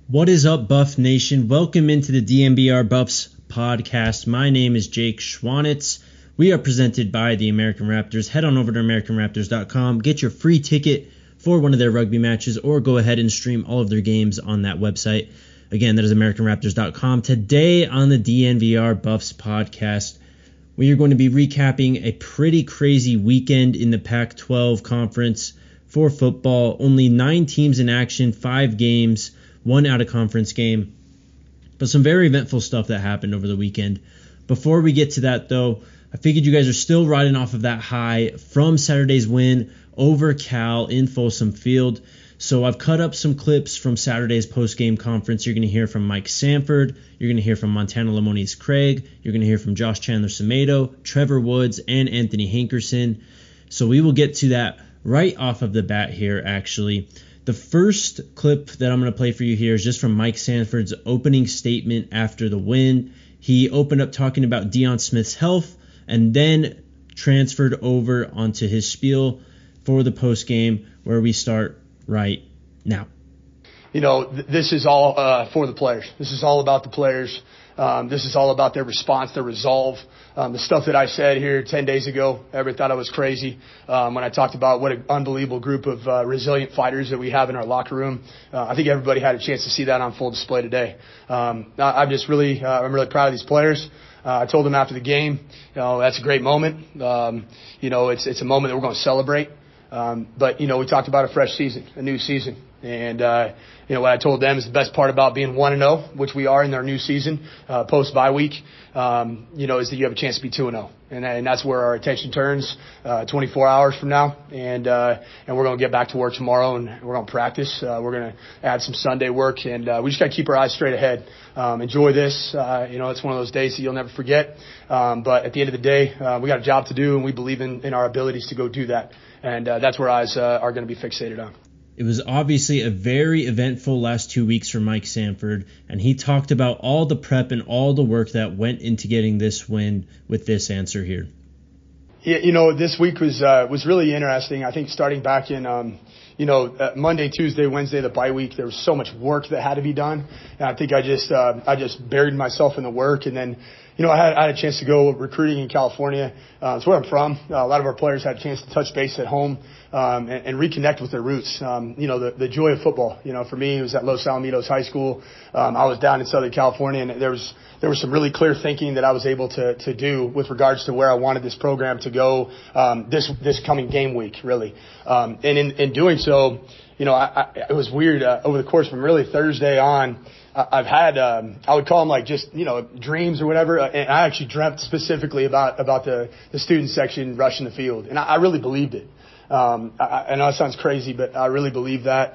What is up, Buff Nation? Welcome into the DNVR Buffs podcast. My name is Jake Schwanitz. We are presented by the American Raptors. Head on over to AmericanRaptors.com. Get your free ticket for one of their rugby matches, or go ahead and stream all of their games on that website. Again, that is AmericanRaptors.com. Today on the DNVR Buffs podcast, we are going to be recapping a pretty crazy weekend in the Pac-12 conference for football. Only 9 teams in action, 5 games, 1 out-of-conference game. But some very eventful stuff that happened over the weekend. Before we get to that, though, I figured you guys are still riding off of that high from Saturday's win over Cal in Folsom Field. So I've cut up some clips from Saturday's post-game conference. You're going to hear from Mike Sanford. You're going to hear from Montana Lamonious Craig. You're going to hear from Josh Chandler-Semedo, Trevor Woods, and Anthony Hankerson. So we will get to that right off of the bat here, actually. The first clip that I'm going to play for you here is just from Mike Sanford's opening statement after the win. He opened up talking about Deion Smith's health and then transferred over onto his spiel for the postgame, where we start right now. You know, this is all for the players. This is all about the players. This is all about their response, their resolve. The stuff that I said here 10 days ago, everybody thought I was crazy when I talked about what an unbelievable group of resilient fighters that we have in our locker room. I think everybody had a chance to see that on full display today. I'm really proud of these players. I told them after the game, that's a great moment. It's a moment that we're going to celebrate. But we talked about a fresh season, a new season. And, what I told them is the best part about being 1-0, which we are in our new season, post-bye week, is that you have a chance to be 2-0. And that's where our attention turns, 24 hours from now. And we're going to get back to work tomorrow, and we're going to practice. We're going to add some Sunday work, and we just got to keep our eyes straight ahead. Enjoy this. It's one of those days that you'll never forget. But at the end of the day, we got a job to do, and we believe in our abilities to go do that. And that's where eyes are going to be fixated on. It was obviously a very eventful last 2 weeks for Mike Sanford, and he talked about all the prep and all the work that went into getting this win with this answer here. Yeah, this week was really interesting. I think starting back in Monday, Tuesday, Wednesday, the bye week, there was so much work that had to be done, and I think I just buried myself in the work. And then I had a chance to go recruiting in California. It's where I'm from. A lot of our players had a chance to touch base at home and reconnect with their roots. The joy of football. For me, it was at Los Alamitos High School. I was down in Southern California, and there was some really clear thinking that I was able to do with regards to where I wanted this program to go this coming game week, really. And in doing so, it was weird over the course from really Thursday on. I've had, I would call them like just, dreams or whatever. And I actually dreamt specifically about the student section rushing the field. And I really believed it. I know it sounds crazy, but I really believe that.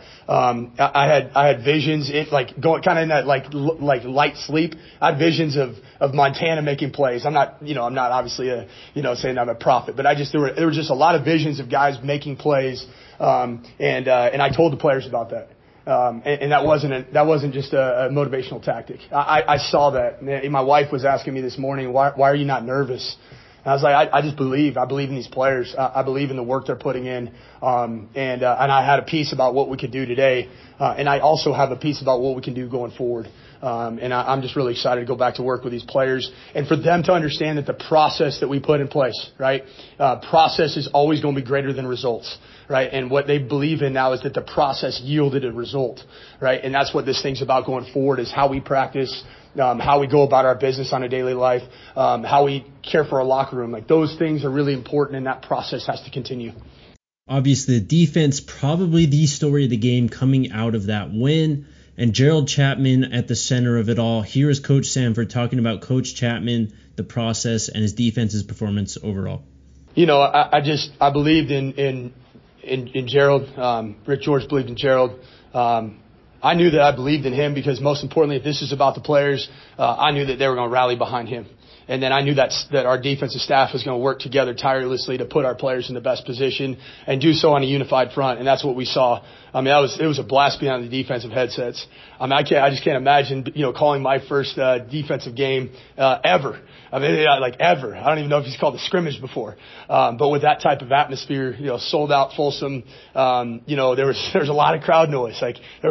I had visions, going kind of in that like light sleep. I had visions of Montana making plays. I'm not obviously saying I'm a prophet, but there were just a lot of visions of guys making plays. And I told the players about that. And that wasn't just a motivational tactic. I saw that. My wife was asking me this morning, why are you not nervous? And I was like, I just believe. I believe in these players. I believe in the work they're putting in. And I had a piece about what we could do today. And I also have a piece about what we can do going forward. And I'm just really excited to go back to work with these players and for them to understand that the process that we put in place, right? Process is always going to be greater than results, right? And what they believe in now is that the process yielded a result, right? And that's what this thing's about going forward, is how we practice, how we go about our business on a daily life, how we care for our locker room. Like, those things are really important, and that process has to continue. Obviously, the defense, probably the story of the game coming out of that win, and Gerald Chapman at the center of it all. Here is Coach Sanford talking about Coach Chapman, the process, and his defense's performance overall. I believed in Gerald. Rick George believed in Gerald. I knew that I believed in him because, most importantly, if this is about the players, I knew that they were going to rally behind him. And then I knew that our defensive staff was going to work together tirelessly to put our players in the best position and do so on a unified front. And that's what we saw. I mean, it was a blast being on the defensive headsets. I mean, I just can't imagine, calling my first defensive game ever. I mean, like ever. I don't even know if he's called a scrimmage before. But with that type of atmosphere, sold out Folsom, there was a lot of crowd noise. Like, there were times I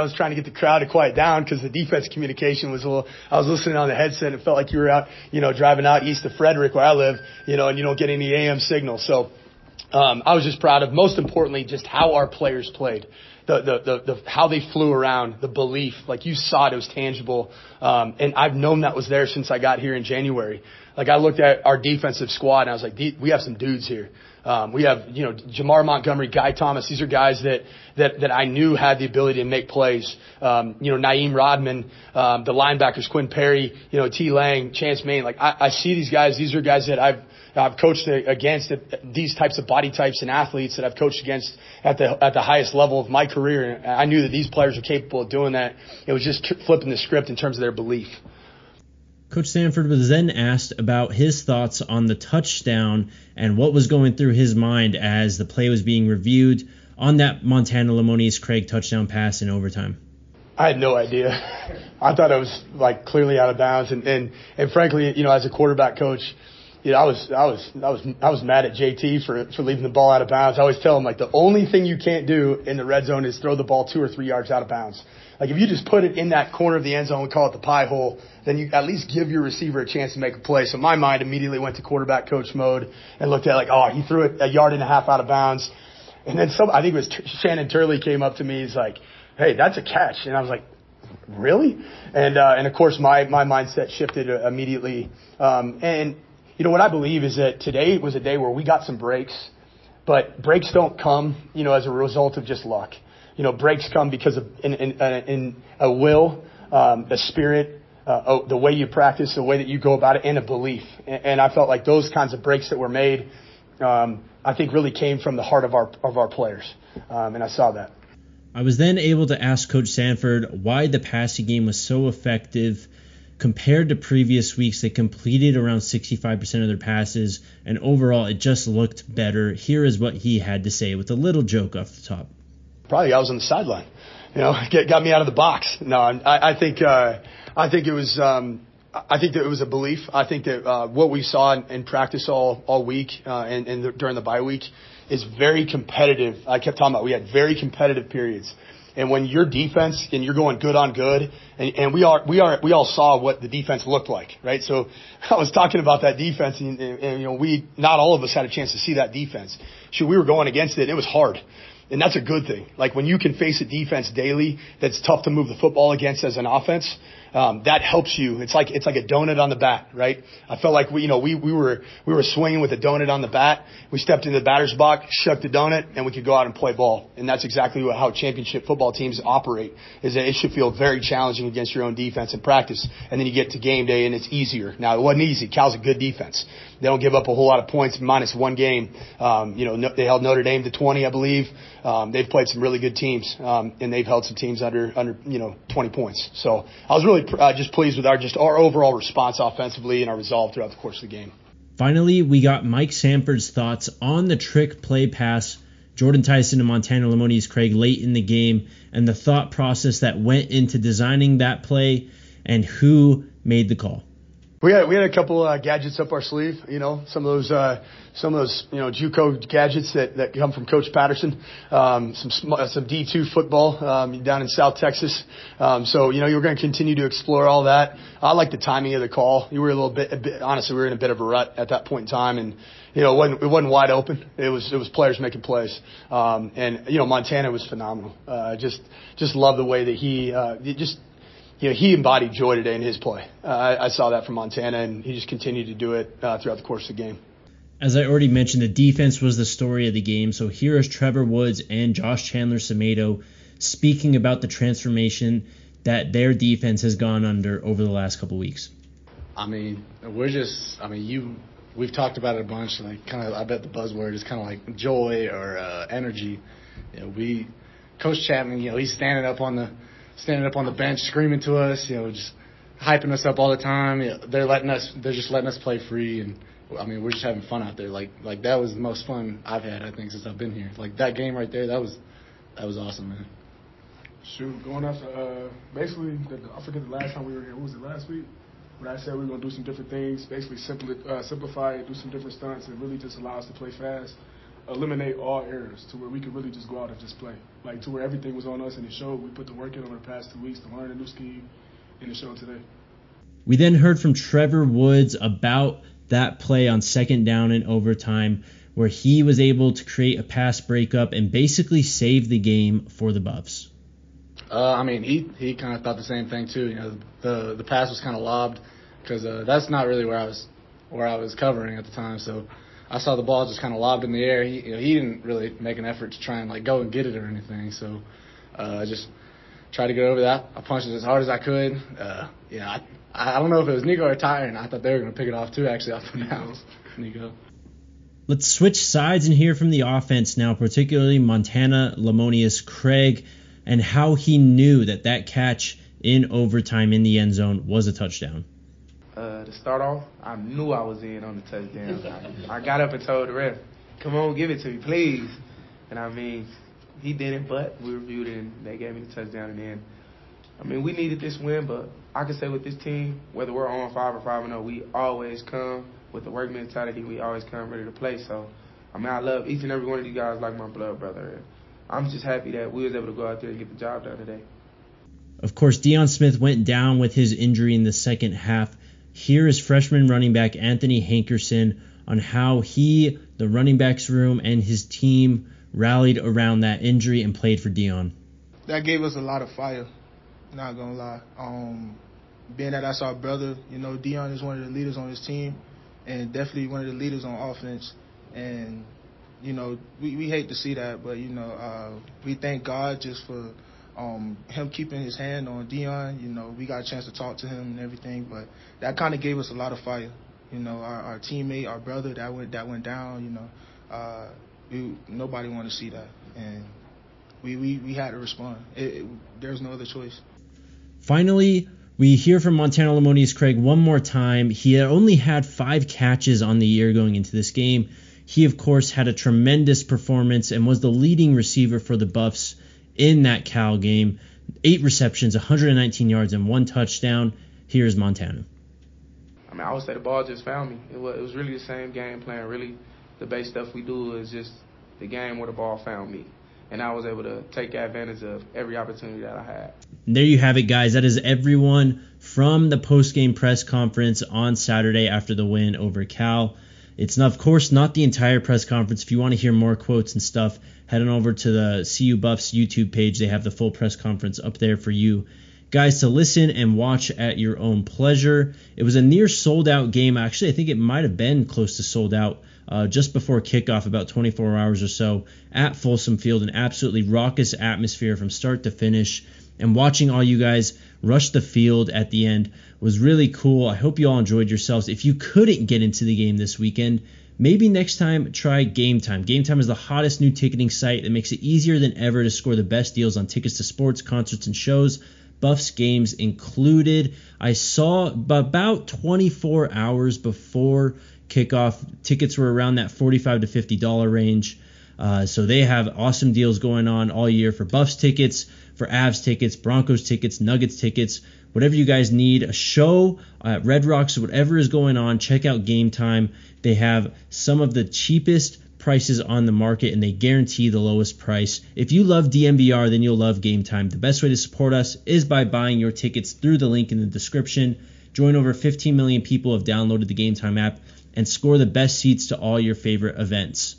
was trying to get the crowd to quiet down because the defense communication was a little, I was listening on the headset and it felt like you were out, driving out east of Frederick where I live, and you don't get any AM signal. So, I was just proud of, most importantly, just how our players played. The how they flew around, the belief, like you saw it was tangible. And I've known that was there since I got here in January. Like I looked at our defensive squad and I was like, we have some dudes here. We have, Jamar Montgomery, Guy Thomas. These are guys that I knew had the ability to make plays. Naeem Rodman, the linebackers, Quinn Perry, T. Lang, Chance Main. Like I see these guys. These are guys that I've coached against, these types of body types and athletes that I've coached against at the highest level of my career. And I knew that these players were capable of doing that. It was just flipping the script in terms of their belief. Coach Sanford was then asked about his thoughts on the touchdown and what was going through his mind as the play was being reviewed on that Montana Lamonius Craig touchdown pass in overtime. I had no idea. I thought it was like clearly out of bounds. And frankly, as a quarterback coach, I was mad at JT for leaving the ball out of bounds. I always tell him, like, the only thing you can't do in the red zone is throw the ball 2 or 3 yards out of bounds. Like, if you just put it in that corner of the end zone, we call it the pie hole, then you at least give your receiver a chance to make a play. So my mind immediately went to quarterback coach mode and looked at, like, he threw it 1.5 yards out of bounds. And then I think it was Shannon Turley came up to me. He's like, hey, that's a catch. And I was like, really? And of course, my mindset shifted immediately. What I believe is that today was a day where we got some breaks, but breaks don't come, as a result of just luck. Breaks come because of in a will, a spirit, the way you practice, the way that you go about it, and a belief. And I felt like those kinds of breaks that were made, I think really came from the heart of our players. And I saw that. I was then able to ask Coach Sanford why the passing game was so effective. Compared to previous weeks, they completed around 65% of their passes, and overall it just looked better. Here is what he had to say with a little joke off the top. Probably I was on the sideline, got me out of the box. No, I think it was I think that it was a belief. I think that what we saw in practice all week and during the bye week is very competitive. I kept talking about we had very competitive periods. And when your defense and you're going good on good, and we all saw what the defense looked like, right? So I was talking about that defense, and we not all of us had a chance to see that defense. So we were going against it, and it was hard. And that's a good thing. Like when you can face a defense daily that's tough to move the football against as an offense, that helps you. It's like a donut on the bat, right? I felt like we were swinging with a donut on the bat. We stepped into the batter's box, shook the donut, and we could go out and play ball. And that's exactly how championship football teams operate. Is that it should feel very challenging against your own defense in practice, and then you get to game day and it's easier. Now it wasn't easy. Cal's a good defense. They don't give up a whole lot of points minus one game. They held Notre Dame to 20, I believe. They've played some really good teams, and they've held some teams under 20 points. So I was really just pleased with our overall response offensively and our resolve throughout the course of the game. Finally, we got Mike Sanford's thoughts on the trick play pass, Jordan Tyson and Montana Lamonius Craig late in the game, and the thought process that went into designing that play and who made the call. We had a couple gadgets up our sleeve, some of those JUCO gadgets that come from Coach Patterson, some D2 football down in South Texas. So you're going to continue to explore all that. I like the timing of the call. You were a bit honestly, we were in a bit of a rut at that point in time, and it wasn't wide open. It was players making plays, and Montana was phenomenal. Just love the way that he embodied joy today in his play. I saw that from Montana, and he just continued to do it throughout the course of the game. As I already mentioned, the defense was the story of the game. So here is Trevor Woods and Josh Chandler-Semedo speaking about the transformation that their defense has gone under over the last couple weeks. We've talked about it a bunch. I bet the buzzword is kind of like joy or energy. Coach Chapman, he's standing up on the bench, screaming to us, just hyping us up all the time. They're just letting us play free, and we're just having fun out there. Like that was the most fun I've had, I think, since I've been here. Like that game right there, that was awesome, man. Shoot, going off basically, I forget the last time we were here. What was it, last week? When I said we were going to do some different things, basically simplify it, do some different stunts, and really just allow us to play fast. eliminate all errors to where we could really just go out and just play. Like, to where everything was on us and it showed. We put the work in over the past 2 weeks to learn a new scheme, and it showed today. We then heard from Trevor Woods about that play on second down in overtime, where he was able to create a pass breakup and basically save the game for the Buffs. He kind of thought the same thing too. You know, the pass was kind of lobbed because that's not really where I was covering at the time. So I saw the ball just kind of lobbed in the air. He didn't really make an effort to try and like go and get it or anything. So I just tried to get over that. I punched it as hard as I could. I don't know if it was Nico or Ty, and I thought they were going to pick it off too, actually, off the bounds. Nico. Let's switch sides and hear from the offense now, particularly Montana Lemonious Craig, and how he knew that catch in overtime in the end zone was a touchdown. To start off, I knew I was in on the touchdown. I got up and told the ref, come on, give it to me, please. And he didn't, but we reviewed it, and they gave me the touchdown. And then, we needed this win, but I can say with this team, whether we're on 5 or 5-0, we always come with the work mentality. We always come ready to play. So, I love each and every one of you guys like my blood brother. And I'm just happy that we was able to go out there and get the job done today. Of course, Deion Smith went down with his injury in the second half. Here is freshman running back Anthony Hankerson on how he, the running backs room, and his team rallied around that injury and played for Deion. That gave us a lot of fire, not going to lie. Being that that's our brother, Deion is one of the leaders on his team and definitely one of the leaders on offense. And, we hate to see that, but, we thank God just for him keeping his hand on Deion. We got a chance to talk to him and everything, but that kind of gave us a lot of fire. Our teammate, our brother that went down, nobody wanted to see that. And we had to respond. There's no other choice. Finally, we hear from Montana Lemonious Craig one more time. He had only had 5 catches on the year going into this game. He, of course, had a tremendous performance and was the leading receiver for the Buffs in that Cal game. 8 receptions, 119 yards, and 1 touchdown. Here's Montana. I would say the ball just found me. It was really the same game plan. Really, the base stuff we do is just the game where the ball found me. And I was able to take advantage of every opportunity that I had. And there you have it, guys. That is everyone from the post-game press conference on Saturday after the win over Cal. It's, of course, not the entire press conference. If you want to hear more quotes and stuff, head on over to the CU Buffs YouTube page. They have the full press conference up there for you guys to listen and watch at your own pleasure. It was a near sold-out game. Actually, I think it might have been close to sold out just before kickoff, about 24 hours or so, at Folsom Field. An absolutely raucous atmosphere from start to finish. And watching all you guys rush the field at the end was really cool. I hope you all enjoyed yourselves. If you couldn't get into the game this weekend, maybe next time try Game Time. Game Time is the hottest new ticketing site that makes it easier than ever to score the best deals on tickets to sports, concerts, and shows, Buffs games included. I saw about 24 hours before kickoff, tickets were around that $45 to $50 range. So they have awesome deals going on all year for Buffs tickets, for Avs tickets, Broncos tickets, Nuggets tickets, whatever you guys need, a show at Red Rocks, whatever is going on, check out Game Time. They have some of the cheapest prices on the market, and they guarantee the lowest price. If you love DNVR, then you'll love Game Time. The best way to support us is by buying your tickets through the link in the description. Join over 15 million people who have downloaded the Game Time app and score the best seats to all your favorite events.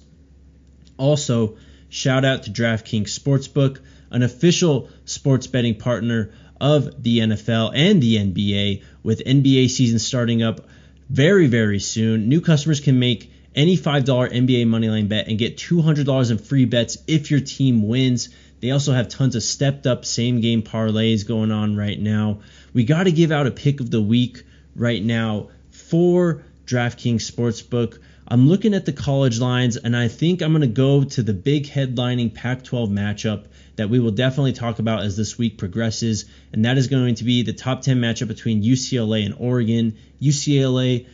Also, shout out to DraftKings Sportsbook, an official sports betting partner of the NFL and the NBA, with NBA season starting up very, very soon. New customers can make any $5 NBA moneyline bet and get $200 in free bets if your team wins. They also have tons of stepped-up same-game parlays going on right now. We got to give out a pick of the week right now for DraftKings Sportsbook. I'm looking at the college lines, and I think I'm going to go to the big headlining Pac-12 matchup that we will definitely talk about as this week progresses, and that is going to be the top 10 matchup between UCLA and Oregon. UCLA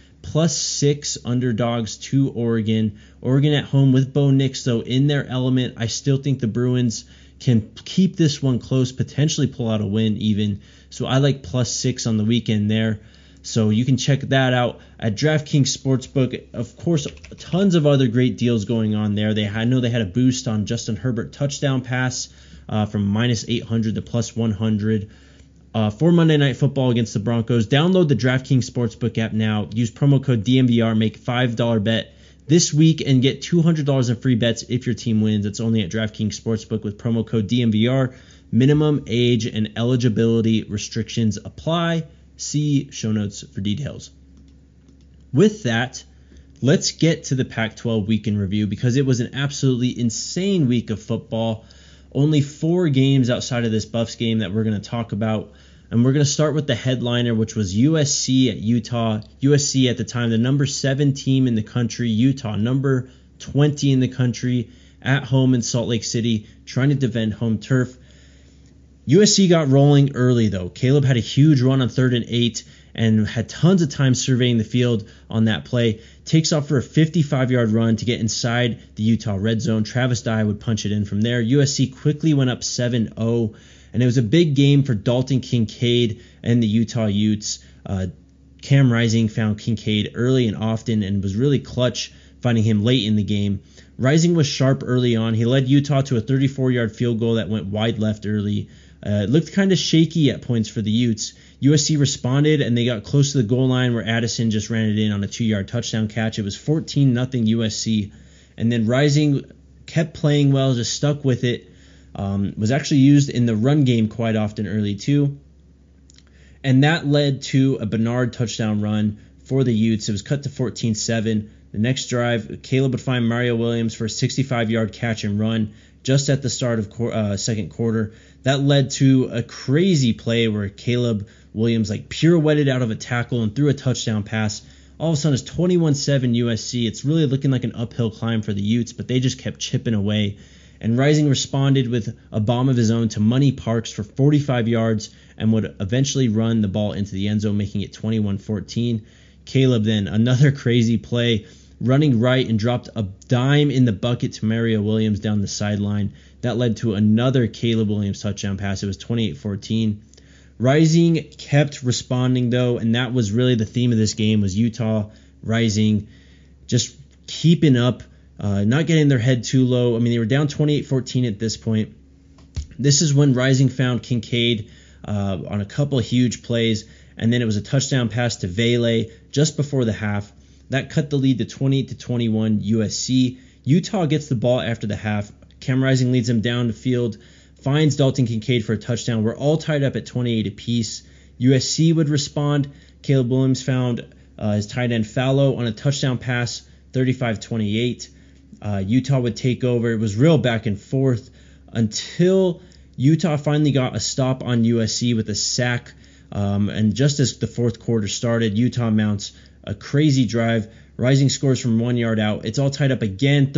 +6 underdogs to Oregon. Oregon at home with Bo Nix, though, in their element. I still think the Bruins can keep this one close, potentially pull out a win even. So I like +6 on the weekend there. So you can check that out at DraftKings Sportsbook. Of course, tons of other great deals going on there. I know they had a boost on Justin Herbert touchdown pass from minus 800 to plus 100 for Monday Night Football against the Broncos. Download the DraftKings Sportsbook app now. Use promo code DNVR. Make $5 bet this week and get $200 in free bets if your team wins. It's only at DraftKings Sportsbook with promo code DNVR. Minimum age and eligibility restrictions apply. See show notes for details. With that, let's get to the Pac-12 week in review because it was an absolutely insane week of football. Only 4 games outside of this Buffs game that we're going to talk about. And we're going to start with the headliner, which was USC at Utah. USC at the time, the number 7 team in the country. Utah, number 20 in the country, at home in Salt Lake City, trying to defend home turf. USC got rolling early, though. Caleb had a huge run on 3rd and 8 and had tons of time surveying the field on that play. Takes off for a 55-yard run to get inside the Utah red zone. Travis Dye would punch it in from there. USC quickly went up 7-0, and it was a big game for Dalton Kincaid and the Utah Utes. Cam Rising found Kincaid early and often and was really clutch, finding him late in the game. Rising was sharp early on. He led Utah to a 34-yard field goal that went wide left early. It looked kind of shaky at points for the Utes. USC responded, and they got close to the goal line where Addison just ran it in on a 2-yard touchdown catch. It was 14-0 USC. And then Rising kept playing well, just stuck with it. Was actually used in the run game quite often early too. And that led to a Bernard touchdown run for the Utes. It was cut to 14-7. The next drive, Caleb would find Mario Williams for a 65-yard catch and run just at the start of second quarter. That led to a crazy play where Caleb Williams pirouetted out of a tackle and threw a touchdown pass. All of a sudden, it's 21-7 USC. It's really looking like an uphill climb for the Utes, but they just kept chipping away. And Rising responded with a bomb of his own to Money Parks for 45 yards and would eventually run the ball into the end zone, making it 21-14. Caleb then, another crazy play, running right and dropped a dime in the bucket to Mario Williams down the sideline. That led to another Caleb Williams touchdown pass. It was 28-14. Rising kept responding, though, and that was really the theme of this game, was Utah Rising just keeping up, not getting their head too low. I mean, they were down 28-14 at this point. This is when Rising found Kincaid on a couple huge plays, and then it was a touchdown pass to Vele just before the half. That cut the lead to 28-21 USC. Utah gets the ball after the half. Cam Rising leads them down the field, finds Dalton Kincaid for a touchdown. We're all tied up at 28 apiece. USC would respond. Caleb Williams found his tight end Fallow on a touchdown pass, 35-28. Utah would take over. It was real back and forth until Utah finally got a stop on USC with a sack. And just as the fourth quarter started, Utah mounts a crazy drive. Rising scores from 1 yard out. It's all tied up again,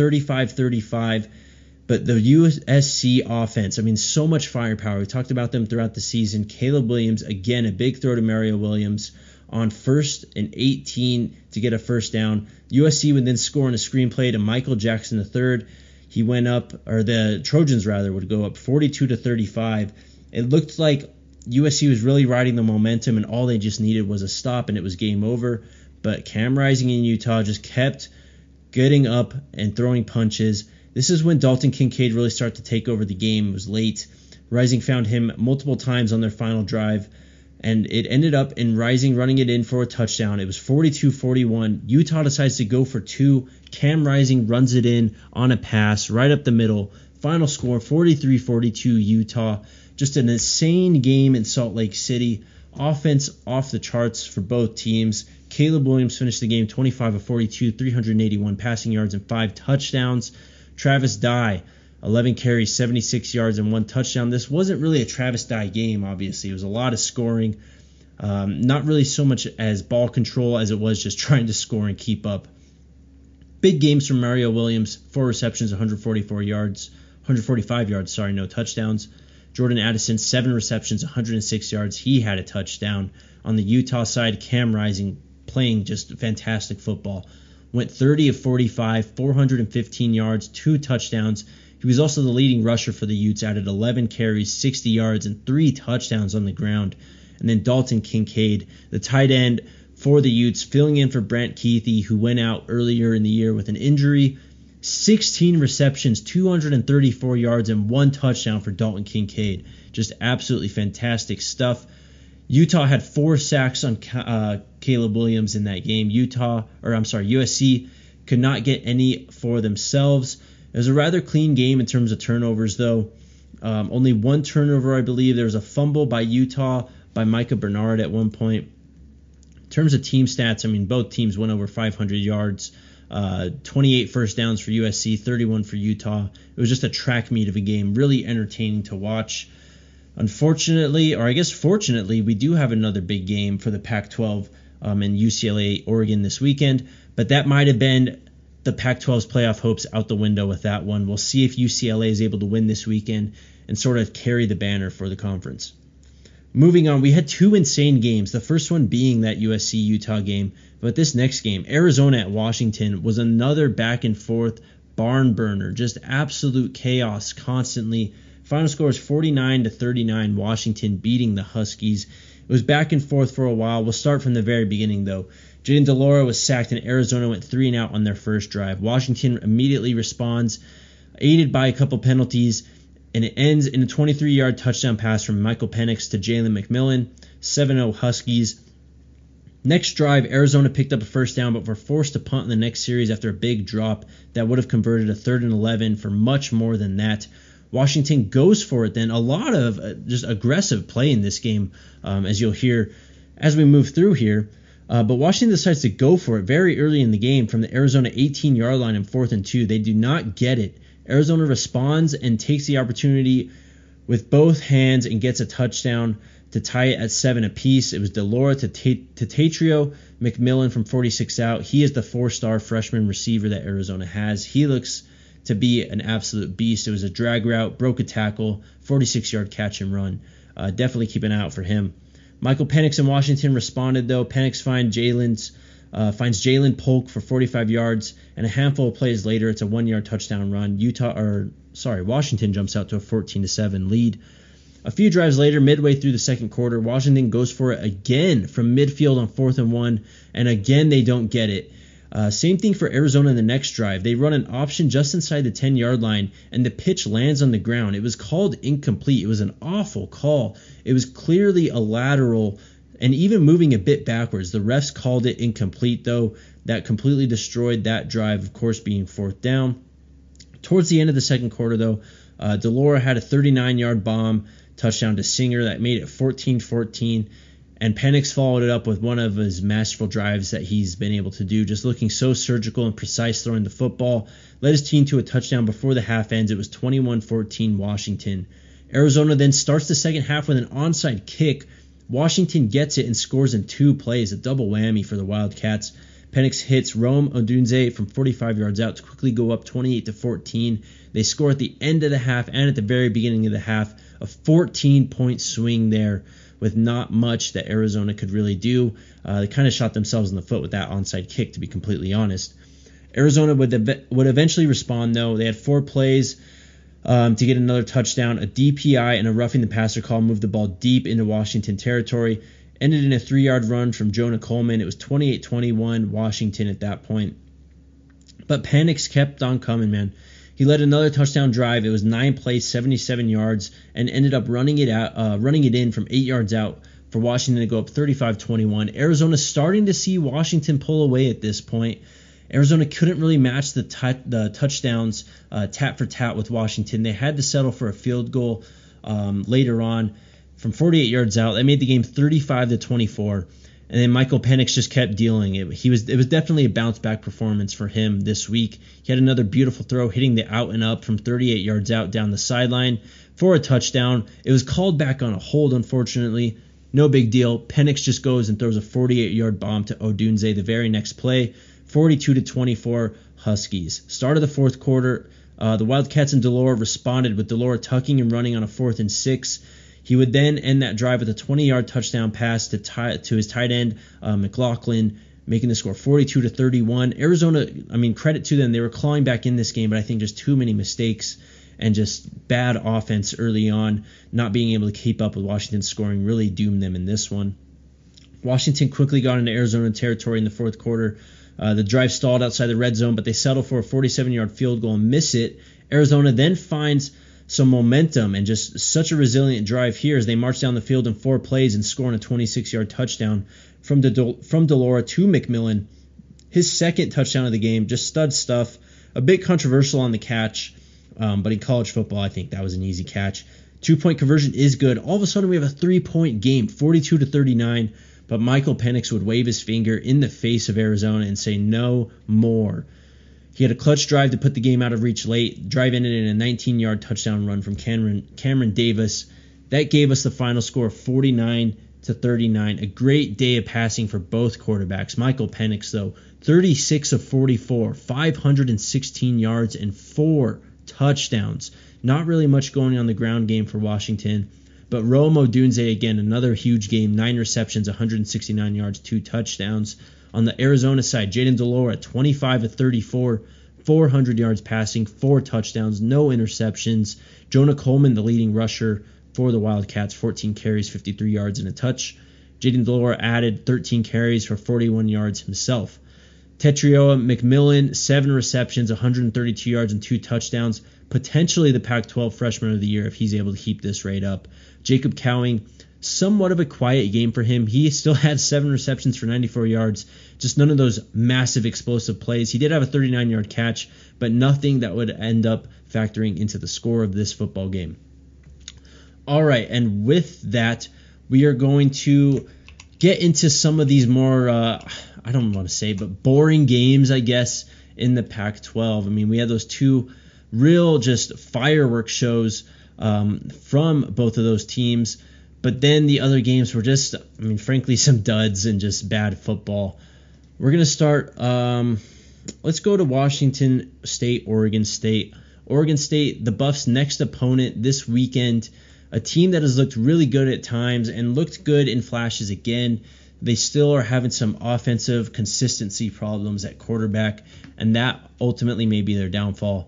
35-35. But the USC offense, I mean, so much firepower. We talked about them throughout the season. Caleb Williams, again, a big throw to Mario Williams on 1st and 18 to get a first down. USC would then score on a screenplay to Michael Jackson III. He went up, or the Trojans rather, would go up 42-35. It looked like USC was really riding the momentum, and all they just needed was a stop, and it was game over. But Cam Rising in Utah just kept getting up and throwing punches. This is when Dalton Kincaid really started to take over the game. It was late. Rising found him multiple times on their final drive, and it ended up in Rising running it in for a touchdown. It was 42-41. Utah decides to go for 2. Cam Rising runs it in on a pass right up the middle. Final score, 43-42 Utah. Just an insane game in Salt Lake City. Offense off the charts for both teams. Caleb Williams finished the game 25 of 42, 381 passing yards and 5 touchdowns. Travis Dye, 11 carries, 76 yards and 1 touchdown. This wasn't really a Travis Dye game, obviously. It was a lot of scoring. Not really so much as ball control as it was just trying to score and keep up. Big games from Mario Williams, 4 receptions, 145 yards, no touchdowns. Jordan Addison, 7 receptions, 106 yards. He had a touchdown. On the Utah side, Cam Rising playing just fantastic football. Went 30 of 45, 415 yards, 2 touchdowns. He was also the leading rusher for the Utes, added 11 carries, 60 yards, and 3 touchdowns on the ground. and then Dalton Kincaid, the tight end for the Utes, filling in for Brant Kuithe, who went out earlier in the year with an injury. 16 receptions, 234 yards, and 1 touchdown for Dalton Kincaid. Just absolutely fantastic stuff. Utah had 4 sacks on Caleb Williams in that game. USC could not get any for themselves. It was a rather clean game in terms of turnovers, though. Only 1 turnover, I believe. There was a fumble by Utah by Micah Bernard at one point. In terms of team stats, I mean, both teams went over 500 yards. 28 first downs for USC, 31 for Utah. It was just a track meet of a game, really entertaining to watch. Unfortunately, or I guess fortunately, we do have another big game for the Pac-12 in UCLA, Oregon this weekend, but that might have been the Pac-12's playoff hopes out the window with that one. We'll see if UCLA is able to win this weekend and sort of carry the banner for the conference. Moving on, we had 2 insane games, the first one being that USC-Utah game, but this next game, Arizona at Washington, was another back-and-forth barn burner, just absolute chaos constantly. Final score is 49-39, Washington beating the Huskies. It was back and forth for a while. We'll start from the very beginning, though. Jayden de Laura was sacked, and Arizona went 3-and-out on their first drive. Washington immediately responds, aided by a couple penalties, and it ends in a 23-yard touchdown pass from Michael Penix to Jalen McMillan, 7-0 Huskies. Next drive, Arizona picked up a first down, but were forced to punt in the next series after a big drop that would have converted a 3rd and 11 for much more than that. Washington goes for it then. A lot of just aggressive play in this game, as you'll hear as we move through here. But Washington decides to go for it very early in the game from the Arizona 18-yard line in 4th and 2. They do not get it. Arizona responds and takes the opportunity with both hands and gets a touchdown to tie it at 7 apiece. It was de Laura to Tatrio McMillan from 46 out. He is the 4-star freshman receiver that Arizona has. He looks to be an absolute beast. It was a drag route, broke a tackle, 46-yard catch and run. Definitely keep an eye out for him. Michael Penix in Washington responded, though. Penix finds Jalen Polk for 45 yards, and a handful of plays later, it's a 1-yard touchdown run. Washington jumps out to a 14-7 lead. A few drives later, midway through the second quarter, Washington goes for it again from midfield on 4th and 1, and again they don't get it. Same thing for Arizona in the next drive. They run an option just inside the 10-yard line, and the pitch lands on the ground. It was called incomplete. It was an awful call. It was clearly a lateral and even moving a bit backwards. The refs called it incomplete, though. That completely destroyed that drive, of course, being 4th down. Towards the end of the second quarter, though, de Laura had a 39-yard bomb touchdown to Singer that made it 14-14. And Penix followed it up with one of his masterful drives that he's been able to do, just looking so surgical and precise throwing the football. Led his team to a touchdown before the half ends. It was 21-14 Washington. Arizona then starts the second half with an onside kick. Washington gets it and scores in 2 plays, a double whammy for the Wildcats. Penix hits Rome Odunze from 45 yards out to quickly go up 28-14. They score at the end of the half and at the very beginning of the half, a 14-point swing there, with not much that Arizona could really do. They kind of shot themselves in the foot with that onside kick, to be completely honest. Arizona would eventually respond, though. They had 4 plays to get another touchdown. A DPI and a roughing the passer call moved the ball deep into Washington territory. Ended in a 3-yard run from Jonah Coleman. It was 28-21 Washington at that point. But Penix kept on coming, man. He led another touchdown drive. It was 9 plays, 77 yards, and ended up running it in from 8 yards out for Washington to go up 35-21. Arizona starting to see Washington pull away at this point. Arizona couldn't really match the touchdowns tat for tat with Washington. They had to settle for a field goal later on from 48 yards out. That made the game 35-24. And then Michael Penix just kept dealing it. It was definitely a bounce back performance for him this week. He had another beautiful throw hitting the out and up from 38 yards out down the sideline for a touchdown. It was called back on a hold, unfortunately. No big deal. Penix just goes and throws a 48-yard bomb to Odunze the very next play. 42-24 Huskies. Start of the fourth quarter, the Wildcats and de Laura responded with de Laura tucking and running on a 4th and 6. He would then end that drive with a 20-yard touchdown pass to his tight end, McLaughlin, making the score 42-31. Arizona, credit to them. They were clawing back in this game, but I think just too many mistakes. and just bad offense early on, not being able to keep up with Washington's scoring really doomed them in this one. Washington quickly got into Arizona territory in the fourth quarter. The drive stalled outside the red zone, but they settled for a 47-yard field goal and miss it. Arizona then finds some momentum and just such a resilient drive here as they march down the field in 4 plays and score on a 26-yard touchdown from DeLora to McMillan. His second touchdown of the game, just stud stuff. A bit controversial on the catch, but in college football, I think that was an easy catch. 2-point conversion is good. All of a sudden, we have a 3-point game, 42-39. But Michael Penix would wave his finger in the face of Arizona and say no more. He had a clutch drive to put the game out of reach late. Drive ended in a 19-yard touchdown run from Cameron Davis. That gave us the final score of 49-39. A great day of passing for both quarterbacks. Michael Penix, though, 36 of 44, 516 yards and 4 touchdowns. Not really much going on the ground game for Washington. But Rome Odunze, again, another huge game, 9 receptions, 169 yards, 2 touchdowns. On the Arizona side, Jayden de Laura, 25 of 34, 400 yards passing, 4 touchdowns, no interceptions. Jonah Coleman, the leading rusher for the Wildcats, 14 carries, 53 yards, and a touch. Jayden de Laura added 13 carries for 41 yards himself. Tetrioa McMillan, 7 receptions, 132 yards, and 2 touchdowns. Potentially the Pac-12 Freshman of the Year if he's able to keep this rate up. Jacob Cowing, somewhat of a quiet game for him. He still had 7 receptions for 94 yards, just none of those massive explosive plays. He did have a 39-yard catch, but nothing that would end up factoring into the score of this football game. All right, and with that, we are going to get into some of these more, I don't want to say, but boring games, I guess, in the Pac-12. I mean, we had those 2 real just fireworks shows from both of those teams. But then the other games were just, I mean, frankly, some duds and just bad football. We're going to start, let's go to Washington State, Oregon State. Oregon State, the Buffs' next opponent this weekend, a team that has looked really good at times and looked good in flashes again. They still are having some offensive consistency problems at quarterback, and that ultimately may be their downfall.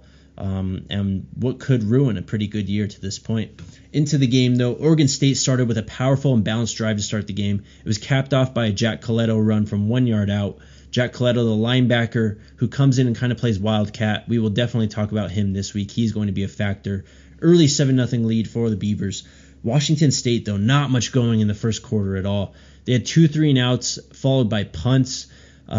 And what could ruin a pretty good year to this point. Into the game, though, Oregon State started with a powerful and balanced drive to start the game. It was capped off by a Jack Coletto run from 1 yard out. Jack Coletto, the linebacker, who comes in and kind of plays Wildcat. We will definitely talk about him this week. He's going to be a factor. Early 7-0 lead for the Beavers. Washington State, though, not much going in the first quarter at all. They had 2 3-and-outs followed by punts.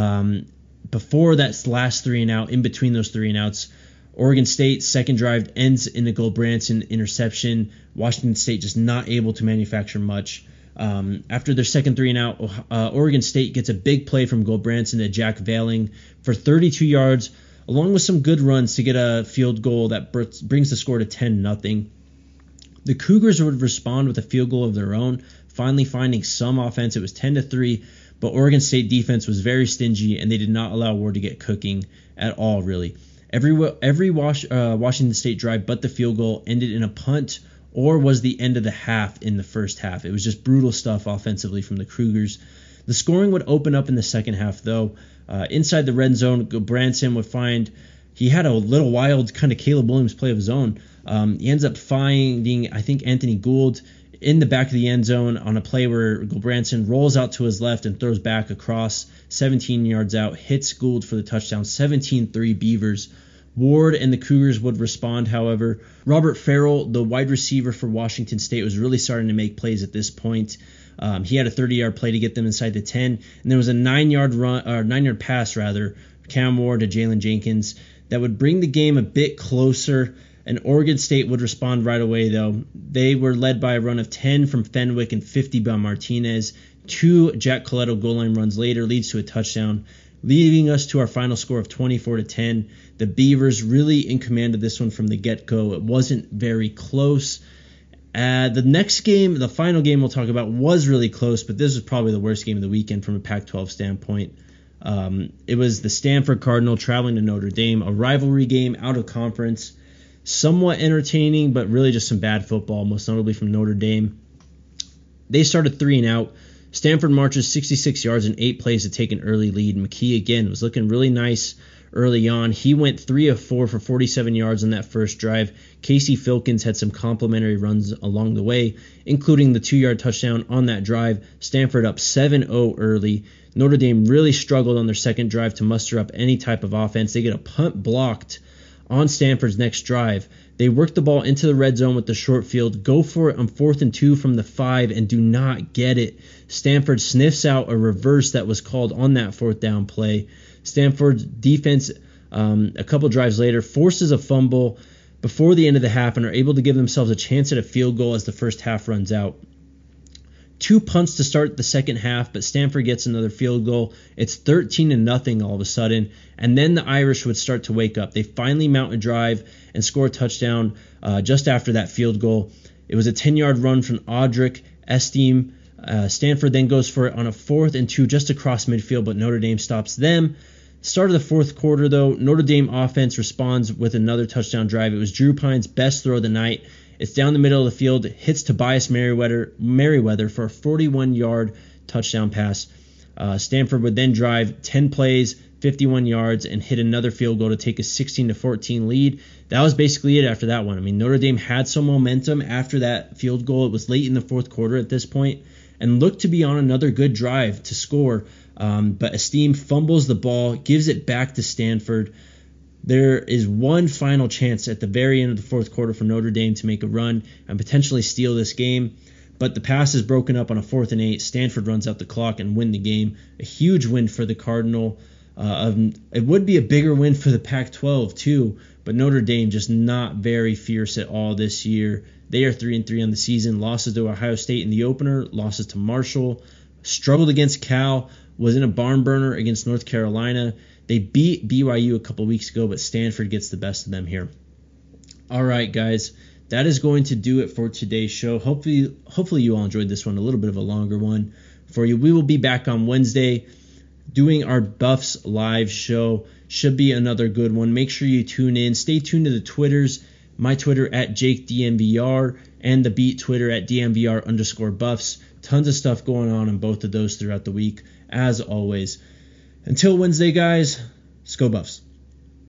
Before that last 3-and-out, in between those 3-and-outs, Oregon State second drive ends in a Gold-Branson interception. Washington State just not able to manufacture much. After their second 3-and-out, Oregon State gets a big play from Gold-Branson to Jack Veiling for 32 yards, along with some good runs to get a field goal that brings the score to 10-0. The Cougars would respond with a field goal of their own, finally finding some offense. It was 10-3, but Oregon State defense was very stingy, and they did not allow Ward to get cooking at all, really. Every Washington State drive but the field goal ended in a punt or was the end of the half in the first half. It was just brutal stuff offensively from the Cougars. The scoring would open up in the second half, though. Inside the red zone, Branson would find he had a little wild kind of Caleb Williams play of his own. He ends up finding, I think, Anthony Gould in the back of the end zone on a play where Branson rolls out to his left and throws back across 17 yards out, hits Gould for the touchdown, 17-3 Beavers. Ward and the Cougars would respond, however. Robert Farrell, the wide receiver for Washington State, was really starting to make plays at this point. He had a 30-yard play to get them inside the 10, and there was a 9-yard pass, Cam Ward to Jalen Jenkins, that would bring the game a bit closer. And Oregon State would respond right away, though. They were led by a run of 10 from Fenwick and 50 by Martinez. 2 Jack Coletto goal line runs later leads to a touchdown, leading us to our final score of 24-10. The Beavers really in command of this one from the get-go. It wasn't very close. The next game, the final game we'll talk about, was really close, but this was probably the worst game of the weekend from a Pac-12 standpoint. It was the Stanford Cardinal traveling to Notre Dame, a rivalry game out of conference. Somewhat entertaining, but really just some bad football, most notably from Notre Dame. They started 3-and-out. Stanford marches 66 yards in 8 plays to take an early lead. McKee, again, was looking really nice early on. He went 3 of 4 for 47 yards on that first drive. Casey Filkins had some complimentary runs along the way, including the 2-yard touchdown on that drive. Stanford up 7-0 early. Notre Dame really struggled on their second drive to muster up any type of offense. They get a punt blocked on Stanford's next drive. They work the ball into the red zone with the short field, go for it on 4th and 2 from the 5, and do not get it. Stanford sniffs out a reverse that was called on that 4th down play. Stanford's defense, a couple drives later, forces a fumble before the end of the half and are able to give themselves a chance at a field goal as the first half runs out. 2 punts to start the second half, but Stanford gets another field goal. It's 13-0 all of a sudden, and then the Irish would start to wake up. They finally mount a drive and score a touchdown just after that field goal. It was a 10-yard run from Audric Estime. Stanford then goes for it on a 4th and 2 just across midfield, but Notre Dame stops them. Start of the fourth quarter, though, Notre Dame offense responds with another touchdown drive. It was Drew Pine's best throw of the night. It's down the middle of the field, hits Tobias Merriweather for a 41-yard touchdown pass. Stanford would then drive 10 plays, 51 yards, and hit another field goal to take a 16-14 lead. That was basically it after that one. I mean, Notre Dame had some momentum after that field goal. It was late in the fourth quarter at this point, and looked to be on another good drive to score. But Estime fumbles the ball, gives it back to Stanford. There is one final chance at the very end of the fourth quarter for Notre Dame to make a run and potentially steal this game, but the pass is broken up on a 4th and 8. Stanford runs out the clock and win the game. A huge win for the Cardinal. It would be a bigger win for the Pac-12 too, but Notre Dame just not very fierce at all this year. They are 3-3 on the season. Losses to Ohio State in the opener, losses to Marshall, struggled against Cal, was in a barn burner against North Carolina. They beat BYU a couple weeks ago, but Stanford gets the best of them here. All right, guys, that is going to do it for today's show. Hopefully you all enjoyed this one, a little bit of a longer one for you. We will be back on Wednesday doing our Buffs live show. Should be another good one. Make sure you tune in. Stay tuned to the Twitters. My Twitter at JakeDMVR and the Beat Twitter at DMVR_Buffs. Tons of stuff going on both of those throughout the week, as always. Until Wednesday, guys, let's go Buffs.